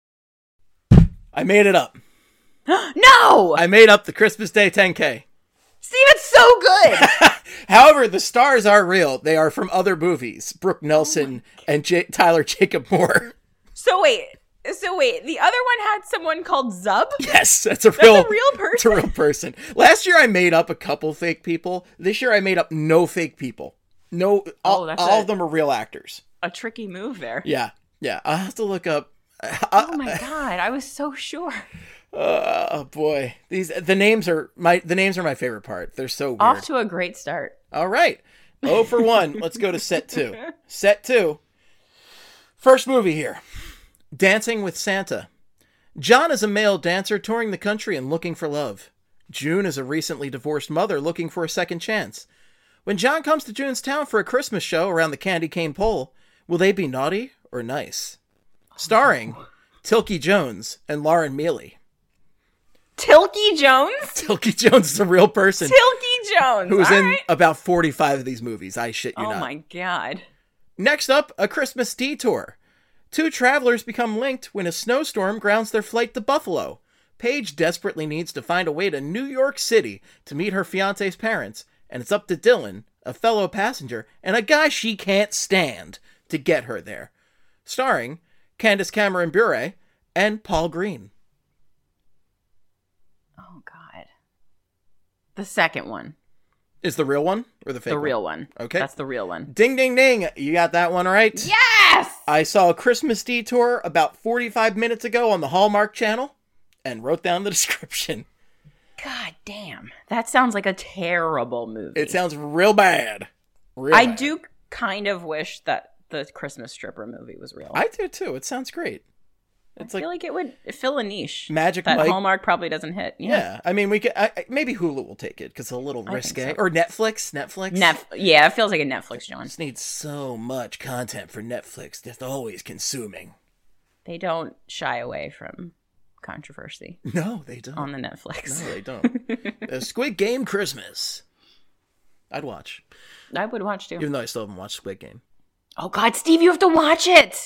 I made it up. No! I made up the Christmas Day 10K. Steve, it's so good! However, the stars are real. They are from other movies. Brooke Nelson and Tyler Jacob Moore. So wait, the other one had someone called Zub? Yes, that's a real person? It's a real person. Last year I made up a couple fake people. This year I made up no fake people. No, all of them are real actors. A tricky move there. Yeah. I'll have to look up. Oh my God, I was so sure. Oh boy, the names are my favorite part. They're so weird. Off to a great start. All right, 0 for 1. Let's go to set 2. Set 2. First movie here. Dancing with Santa. John is a male dancer touring the country and looking for love. June is a recently divorced mother looking for a second chance. When John comes to June's town for a Christmas show around the candy cane pole, will they be naughty or nice? Starring Tilky Jones and Lauren Mealy. Tilky Jones? Tilky Jones is a real person. Tilky Jones. Who's All in right. about 45 of these movies. I shit you not. Oh my God. Next up, A Christmas Detour. Two travelers become linked when a snowstorm grounds their flight to Buffalo. Paige desperately needs to find a way to New York City to meet her fiancé's parents, and it's up to Dylan, a fellow passenger, and a guy she can't stand to get her there. Starring Candace Cameron Bure and Paul Green. Oh God. The second one. Is the real one or the fake The one? real one. Okay. That's the real one. Ding, ding, ding. You got that one right? Yes! I saw A Christmas Detour about 45 minutes ago on the Hallmark Channel and wrote down the description. God damn. That sounds like a terrible movie. It sounds real bad. Real I bad. do kind of wish that the Christmas Stripper movie was real. I do too. It sounds great. It's I feel like it would fill a niche. Magic that Mike. Hallmark probably doesn't hit. Yeah. I mean, we could maybe Hulu will take it because it's a little think risque. so. Or Netflix. Yeah, it feels like a Netflix, John. Just needs so much content for Netflix. Just always consuming. They don't shy away from controversy No, they don't. on the Netflix. No, they don't. Squid Game Christmas. I'd watch. I would watch too. Even though I still haven't watched Squid Game. Oh God, Steve, you have to watch it.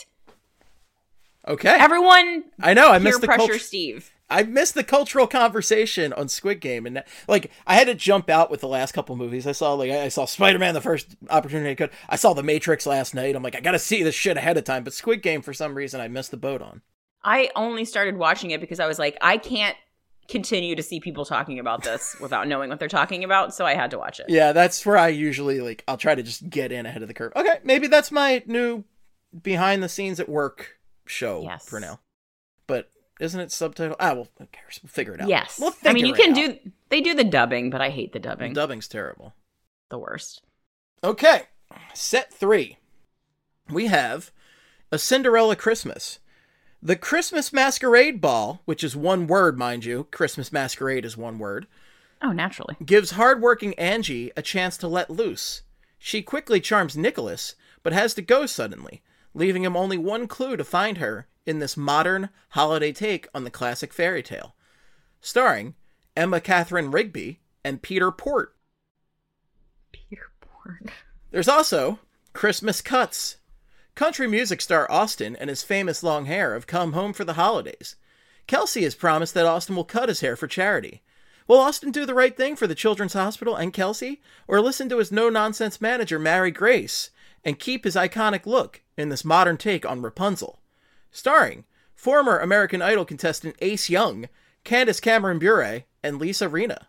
Okay. Everyone, I know. I peer missed the pressure, Steve. I missed the cultural conversation on Squid Game, and like I had to jump out with the last couple movies. I saw Spider-Man the first opportunity I could. I saw The Matrix last night. I'm like, I gotta see this shit ahead of time. But Squid Game, for some reason, I missed the boat on. I only started watching it because I was like, I can't continue to see people talking about this without knowing what they're talking about, so I had to watch it. Yeah, that's where I usually I'll try to just get in ahead of the curve. Okay, maybe that's my new behind the scenes at work show for now. But isn't it subtitled? Well, who cares? We'll figure it out. Yes. We'll I mean, you figure can it out. they do the dubbing, but I hate the dubbing. The dubbing's terrible. The worst. Okay, set 3. We have A Cinderella Christmas. The Christmas Masquerade Ball, which is one word, mind you. Christmas Masquerade is one word. Oh, naturally. Gives hardworking Angie a chance to let loose. She quickly charms Nicholas, but has to go suddenly, leaving him only one clue to find her in this modern holiday take on the classic fairy tale. Starring Emma Catherine Rigby and Peter Port. Peter Port. There's also Christmas Cuts. Country music star Austin and his famous long hair have come home for the holidays. Kelsey has promised that Austin will cut his hair for charity. Will Austin do the right thing for the Children's Hospital and Kelsey, or listen to his no-nonsense manager, Mary Grace, and keep his iconic look in this modern take on Rapunzel? Starring former American Idol contestant Ace Young, Candace Cameron Bure, and Lisa Rinna.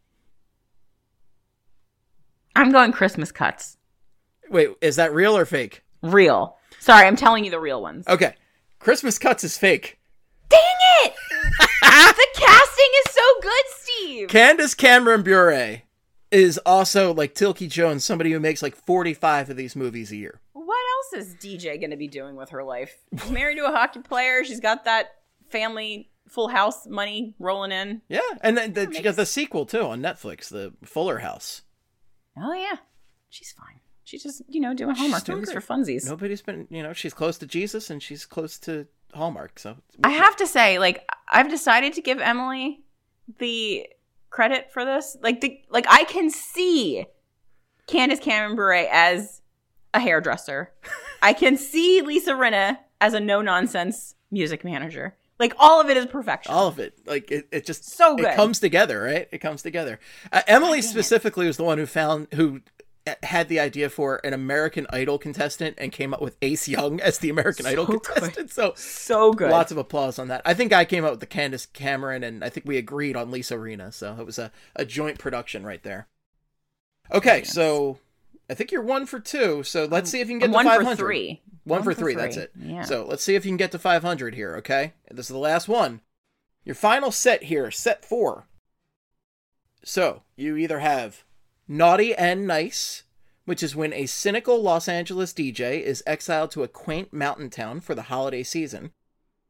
I'm going Christmas Cuts. Wait, is that real or fake? Real. Sorry, I'm telling you the real ones. Okay. Christmas Cuts is fake. Dang it! The casting is so good, Steve! Candace Cameron Bure is also, like Tilky Jones, somebody who makes like 45 of these movies a year. What else is DJ going to be doing with her life? She's married to a hockey player. She's got that family Full House money rolling in. Yeah, and then she got the sequel, too, on Netflix, the Fuller House. Oh, yeah. She's fine. She's just, doing Hallmark movies for funsies. Nobody's been, she's close to Jesus and she's close to Hallmark, so. I have to say, I've decided to give Emily the credit for this. I can see Candace Cameron Bure as a hairdresser. I can see Lisa Rinna as a no-nonsense music manager. All of it is perfection. All of it. It just so good. It comes together, right? It comes together. Emily specifically was the one who had the idea for an American Idol contestant and came up with Ace Young as the American Idol contestant. So good. Lots of applause on that. I think I came up with the Candace Cameron, and I think we agreed on Lisa Rinna. So it was a joint production right there. Okay, so I think you're 1 for 2. So let's see if you can get to 500. 1 for 3. 1 for 3, that's it. Yeah. So let's see if you can get to 500 here, okay? This is the last one. Your final set here, set 4. So you either have Naughty and Nice, which is when a cynical Los Angeles DJ is exiled to a quaint mountain town for the holiday season.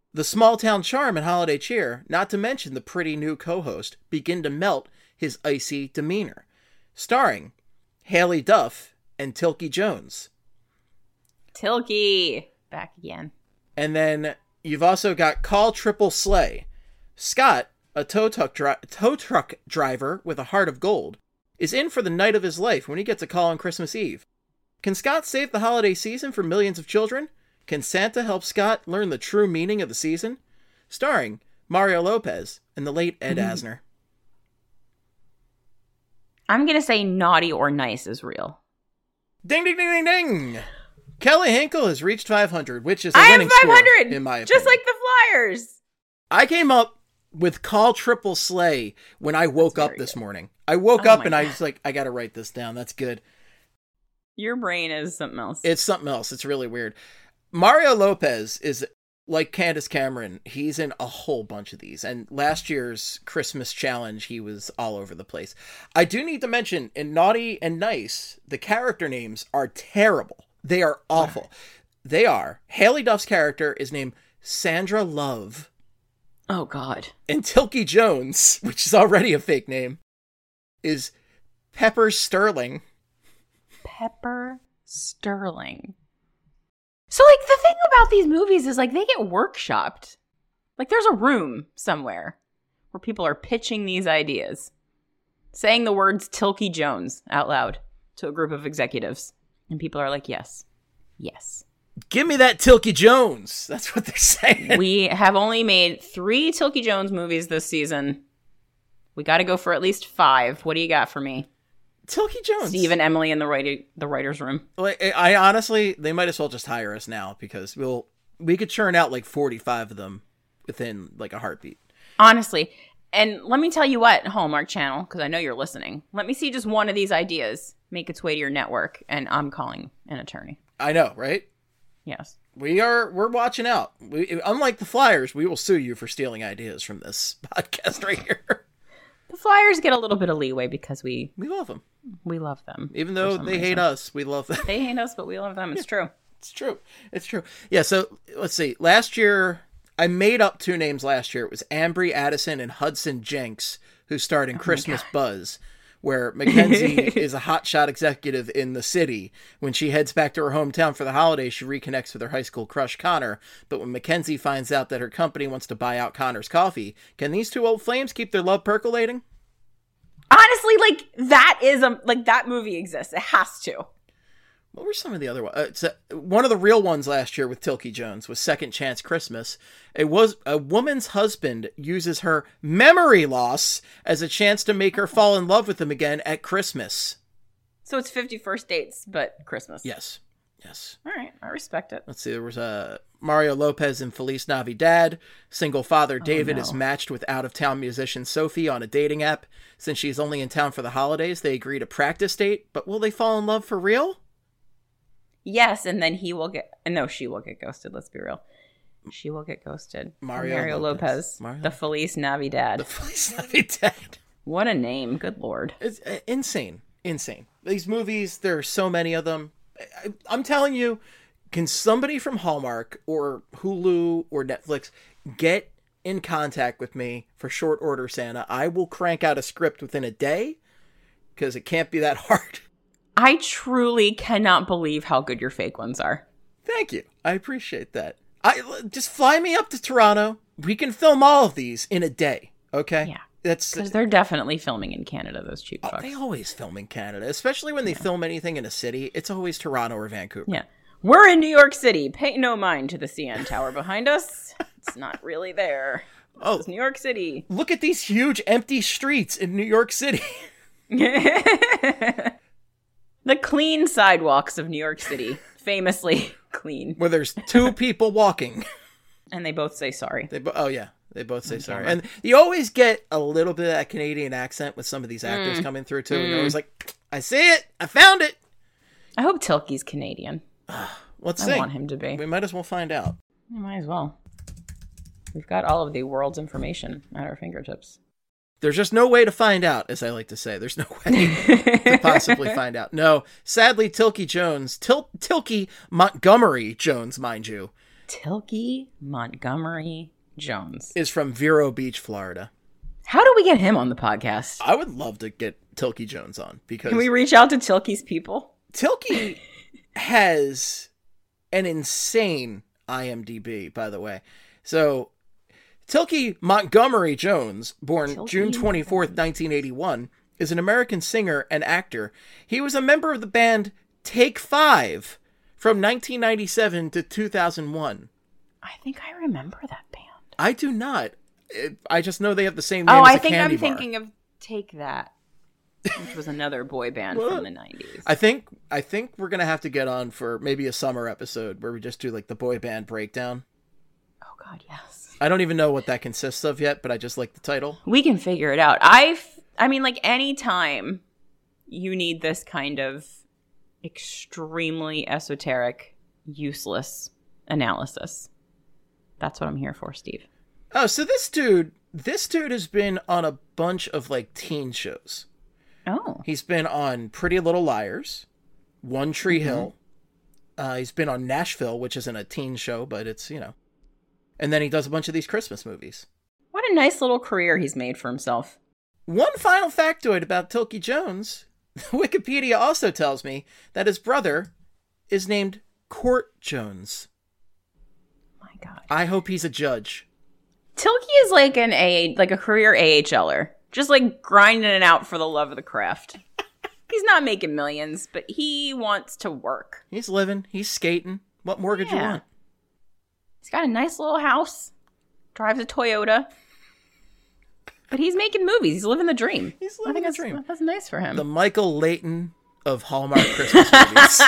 The small-town charm and holiday cheer, not to mention the pretty new co-host, begin to melt his icy demeanor. Starring Haley Duff and Tilky Jones. Tilky! Back again. And then you've also got Call Triple Slay. Scott, a tow truck driver with a heart of gold, is in for the night of his life when he gets a call on Christmas Eve. Can Scott save the holiday season for millions of children? Can Santa help Scott learn the true meaning of the season? Starring Mario Lopez and the late Ed Asner. I'm going to say Naughty or Nice is real. Ding, ding, ding, ding, ding! Kelly Hinkle has reached 500, which is a I winning have 500, score, in my opinion. just like the Flyers. I came up with Call Triple Slay when I woke up this morning. I woke up and I was like, I got to write this down. That's good. Your brain is something else. It's something else. It's really weird. Mario Lopez is like Candace Cameron. He's in a whole bunch of these. And last year's Christmas challenge, he was all over the place. I do need to mention, in Naughty and Nice, the character names are terrible. They are awful. They are. Haley Duff's character is named Sandra Love. Oh, God. And Tilky Jones, which is already a fake name, is Pepper Sterling. Pepper Sterling. So, like, the thing about these movies is, like, they get workshopped. Like, there's a room somewhere where people are pitching these ideas, saying the words Tilky Jones out loud to a group of executives. And people are like, yes, yes. Give me that Tilky Jones. That's what they're saying. We have only made 3 Tilky Jones movies this season. We got to go for at least 5. What do you got for me? Tilky Jones. Steve and Emily in the writer's room. Like, I honestly, they might as well just hire us now because we could churn out like 45 of them within like a heartbeat. Honestly. And let me tell you what, Hallmark Channel, because I know you're listening. Let me see just one of these ideas make its way to your network, and I'm calling an attorney. I know, right? Yes. We're watching out. Unlike the Flyers, we will sue you for stealing ideas from this podcast right here. The Flyers get a little bit of leeway because we love them. We love them. Even though they hate us, we love them. They hate us, but we love them. It's true. It's true. It's true. Yeah, so let's see. Last year, I made up 2 names last year. It was Ambry Addison and Hudson Jenks, who starred in Christmas Buzz, where Mackenzie is a hotshot executive in the city. When she heads back to her hometown for the holidays, she reconnects with her high school crush, Connor. But when Mackenzie finds out that her company wants to buy out Connor's coffee, can these 2 old flames keep their love percolating? Honestly, like, that is that movie exists. It has to. What were some of the other ones? One of the real ones last year with Tilky Jones was Second Chance Christmas. It was a woman's husband uses her memory loss as a chance to make her fall in love with him again at Christmas. So it's 51st dates, but Christmas. Yes. Yes. All right. I respect it. Let's see. There was Mario Lopez and Feliz Navidad. Single father David is matched with out-of-town musician Sophie on a dating app. Since she's only in town for the holidays, they agree to practice date. But will they fall in love for real? Yes, and then she will get ghosted. Let's be real. She will get ghosted. Mario Lopez. The Feliz Navidad. The Feliz Navidad. What a name. Good Lord. It's insane. Insane. These movies, there are so many of them. I'm telling you, can somebody from Hallmark or Hulu or Netflix get in contact with me for short order, Santa? I will crank out a script within a day because it can't be that hard. I truly cannot believe how good your fake ones are. Thank you. I appreciate that. Just fly me up to Toronto. We can film all of these in a day. Okay? Yeah. Because they're definitely filming in Canada, those cheap fucks. They always film in Canada, especially when they film anything in a city. It's always Toronto or Vancouver. Yeah. We're in New York City. Pay no mind to the CN Tower behind us. It's not really there. It's New York City. Look at these huge empty streets in New York City. The clean sidewalks of New York City. Famously clean. Where there's 2 people walking. And they both say sorry. They both say sorry. And you always get a little bit of that Canadian accent with some of these actors coming through, too. And you're always like, I see it. I found it. I hope Tilky's Canadian. Let's see. I want him to be. We might as well find out. We might as well. We've got all of the world's information at our fingertips. There's just no way to find out, as I like to say. There's no way to possibly find out. No, sadly, Tilky Jones, Tilky Montgomery Jones, mind you, Tilkey Montgomery Jones is from Vero Beach, Florida. How do we get him on the podcast? I would love to get Tilkey Jones on because can we reach out to Tilkey's people? Tilkey has an insane IMDb, by the way. So Tilkey Montgomery Jones, born June 24th, 1981, is an American singer and actor. He was a member of the band Take Five from 1997 to 2001. I think I remember that band. I do not. I just know they have the same name as a I think candy I'm bar. Thinking of Take That, which was another boy band from the 90s. I think we're going to have to get on for maybe a summer episode where we just do like the boy band breakdown. Oh God, yes. I don't even know what that consists of yet, but I just like the title. We can figure it out. I mean, like, anytime you need this kind of extremely esoteric, useless analysis, that's what I'm here for, Steve. Oh, so this dude has been on a bunch of like teen shows. Oh. He's been on Pretty Little Liars, One Tree Hill. He's been on Nashville, which isn't a teen show, but it's, you know. And then he does a bunch of these Christmas movies. What a nice little career he's made for himself. One final factoid about Tilkey Jones. Wikipedia also tells me that his brother is named Court Jones. My God. I hope he's a judge. Tilkey is like a career AHLer. Just like grinding it out for the love of the craft. He's not making millions, but he wants to work. He's living. He's skating. What more could you want? He's got a nice little house. Drives a Toyota. But he's making movies. He's living the dream. He's living the dream. That's nice for him. The Michael Layton of Hallmark Christmas movies.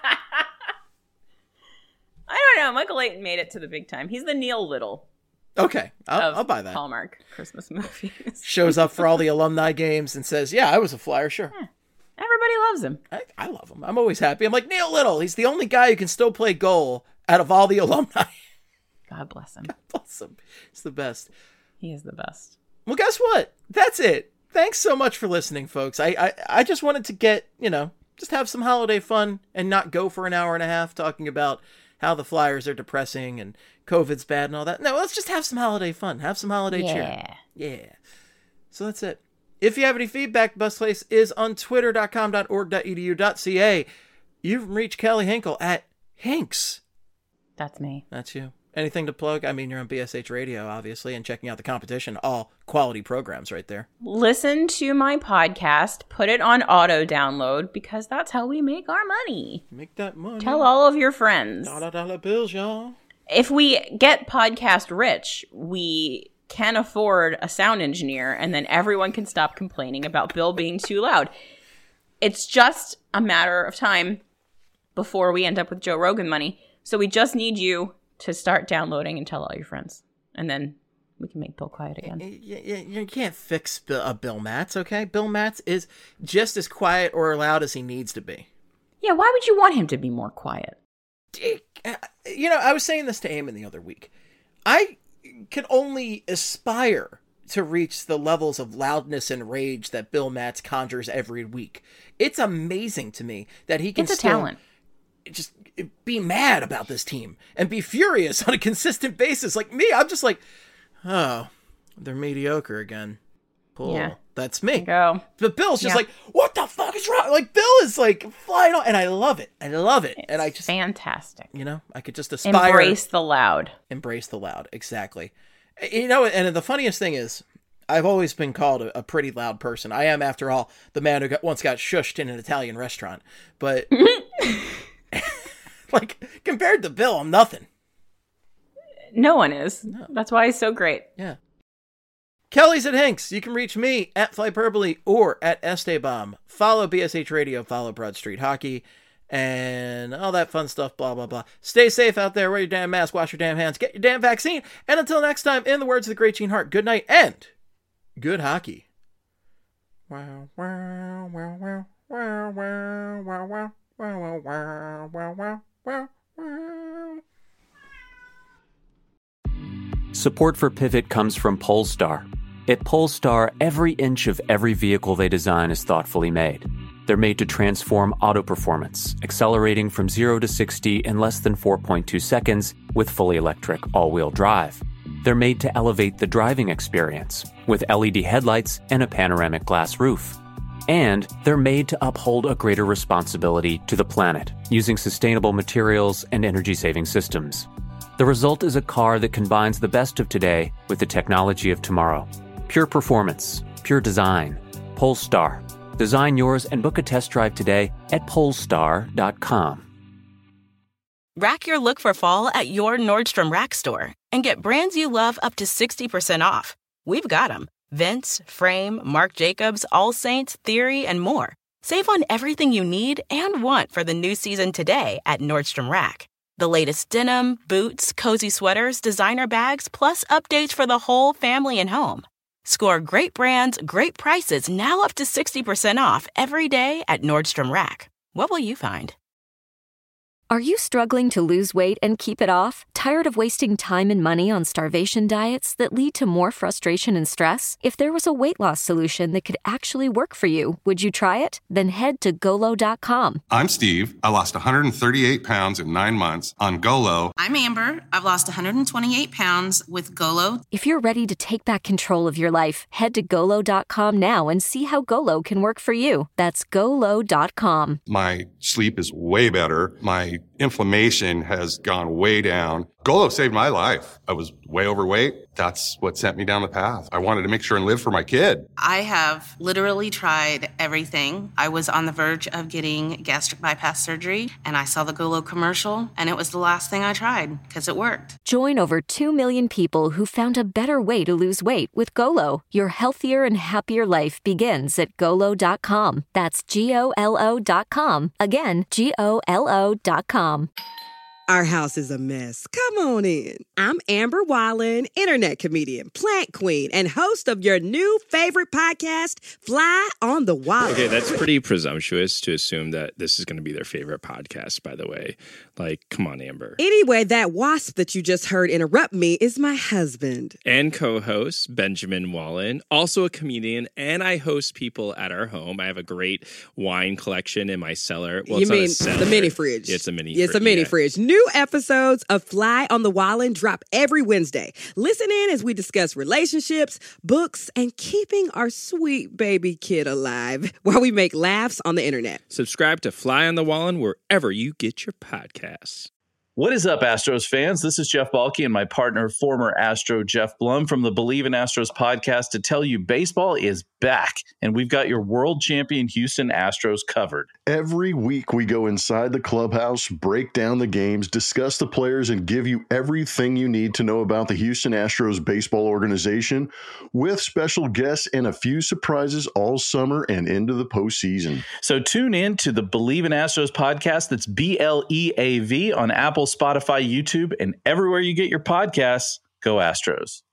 I don't know. Michael Layton made it to the big time. He's the Neil Little. Okay, I'll buy that. Hallmark Christmas movies. Shows up for all the alumni games and says, yeah, I was a Flyer, sure. Yeah. Everybody loves him. I love him. I'm always happy. I'm like, Neil Little, he's the only guy who can still play goal out of all the alumni. God bless him. God bless him. He's the best. He is the best. Well, guess what? That's it. Thanks so much for listening, folks. I just wanted to get, just have some holiday fun and not go for an hour and a half talking about how the Flyers are depressing and COVID's bad and all that. No, let's just have some holiday fun. Have some holiday cheer. Yeah. So that's it. If you have any feedback, the best place is on twitter.com.org.edu.ca. You can reach Kelly Hinkle at Hinks. That's me. That's you. Anything to plug? I mean, you're on BSH Radio, obviously, and checking out the competition. All quality programs right there. Listen to my podcast. Put it on auto download because that's how we make our money. Make that money. Tell all of your friends. Dollar bills, y'all. If we get podcast rich, we can afford a sound engineer, and then everyone can stop complaining about Bill being too loud. It's just a matter of time before we end up with Joe Rogan money. So we just need you to start downloading and tell all your friends. And then we can make Bill quiet again. You can't fix Bill Matz, okay? Bill Matz is just as quiet or loud as he needs to be. Yeah, why would you want him to be more quiet? I was saying this to Eamon the other week. I can only aspire to reach the levels of loudness and rage that Bill Matz conjures every week. It's amazing to me that he can talent. Just be mad about this team and be furious on a consistent basis. Like me, I'm just like, oh, they're mediocre again. Cool. Yeah. That's me. Go. But Bill's just like, what the fuck is wrong? Like, Bill is like flying on, and I love it. It's and I just fantastic. I could just aspire. Embrace the loud. Exactly. And the funniest thing is, I've always been called a pretty loud person. I am, after all, the man who once got shushed in an Italian restaurant. But like, compared to Bill, I'm nothing. No one is. No. That's why he's so great. Yeah. Kelly's at Hinks. You can reach me at Flyperbole or at Esteban. Follow BSH Radio, follow Broad Street Hockey, and all that fun stuff, blah, blah, blah. Stay safe out there. Wear your damn mask, wash your damn hands, get your damn vaccine. And until next time, in the words of the great Gene Hart, good night and good hockey. Wow, wow, wow, wow, wow, wow, wow, wow, wow, wow, wow, wow, wow, wow. Support for Pivot comes from Polestar. At Polestar, every inch of every vehicle they design is thoughtfully made. They're made to transform auto performance, accelerating from 0 to 60 in less than 4.2 seconds with fully electric all-wheel drive. They're made to elevate the driving experience with LED headlights and a panoramic glass roof. And they're made to uphold a greater responsibility to the planet using sustainable materials and energy-saving systems. The result is a car that combines the best of today with the technology of tomorrow. Pure performance, pure design. Polestar. Design yours and book a test drive today at polestar.com. Rack your look for fall at your Nordstrom Rack store and get brands you love up to 60% off. We've got them. Vince, Frame, Marc Jacobs, All Saints, Theory, and more. Save on everything you need and want for the new season today at Nordstrom Rack. The latest denim, boots, cozy sweaters, designer bags, plus updates for the whole family and home. Score great brands, great prices, now up to 60% off every day at Nordstrom Rack. What will you find? Are you struggling to lose weight and keep it off? Tired of wasting time and money on starvation diets that lead to more frustration and stress? If there was a weight loss solution that could actually work for you, would you try it? Then head to Golo.com. I'm Steve. I lost 138 pounds in 9 months on Golo. I'm Amber. I've lost 128 pounds with Golo. If you're ready to take back control of your life, head to Golo.com now and see how Golo can work for you. That's Golo.com. My sleep is way better. My inflammation has gone way down. Golo saved my life. I was way overweight. That's what sent me down the path. I wanted to make sure and live for my kid. I have literally tried everything. I was on the verge of getting gastric bypass surgery, and I saw the Golo commercial, and it was the last thing I tried because it worked. Join over 2 million people who found a better way to lose weight with Golo. Your healthier and happier life begins at Golo.com. That's Golo.com. Again, Golo.com. Our house is a mess. Come on in. I'm Amber Wallen, internet comedian, plant queen, and host of your new favorite podcast, Fly on the Wallen. Okay, that's pretty presumptuous to assume that this is going to be their favorite podcast, by the way. Like, come on, Amber. Anyway, that wasp that you just heard interrupt me is my husband. And co-host, Benjamin Wallen, also a comedian, and I host people at our home. I have a great wine collection in my cellar. Well, you mean the mini fridge? Yeah, it's a mini fridge. It's a mini fridge. New episodes of Fly on the Wallen drop every Wednesday. Listen in as we discuss relationships, books, and keeping our sweet baby kid alive while we make laughs on the internet. Subscribe to Fly on the Wallen wherever you get your podcasts. What is up, Astros fans? This is Jeff Balke and my partner, former Astro Jeff Blum from the Believe in Astros podcast to tell you baseball is back, and we've got your world champion Houston Astros covered. Every week we go inside the clubhouse, break down the games, discuss the players, and give you everything you need to know about the Houston Astros baseball organization with special guests and a few surprises all summer and into the postseason. So tune in to the Believe in Astros podcast. That's BLEAV on Apple, Spotify, YouTube, and everywhere you get your podcasts. Go Astros.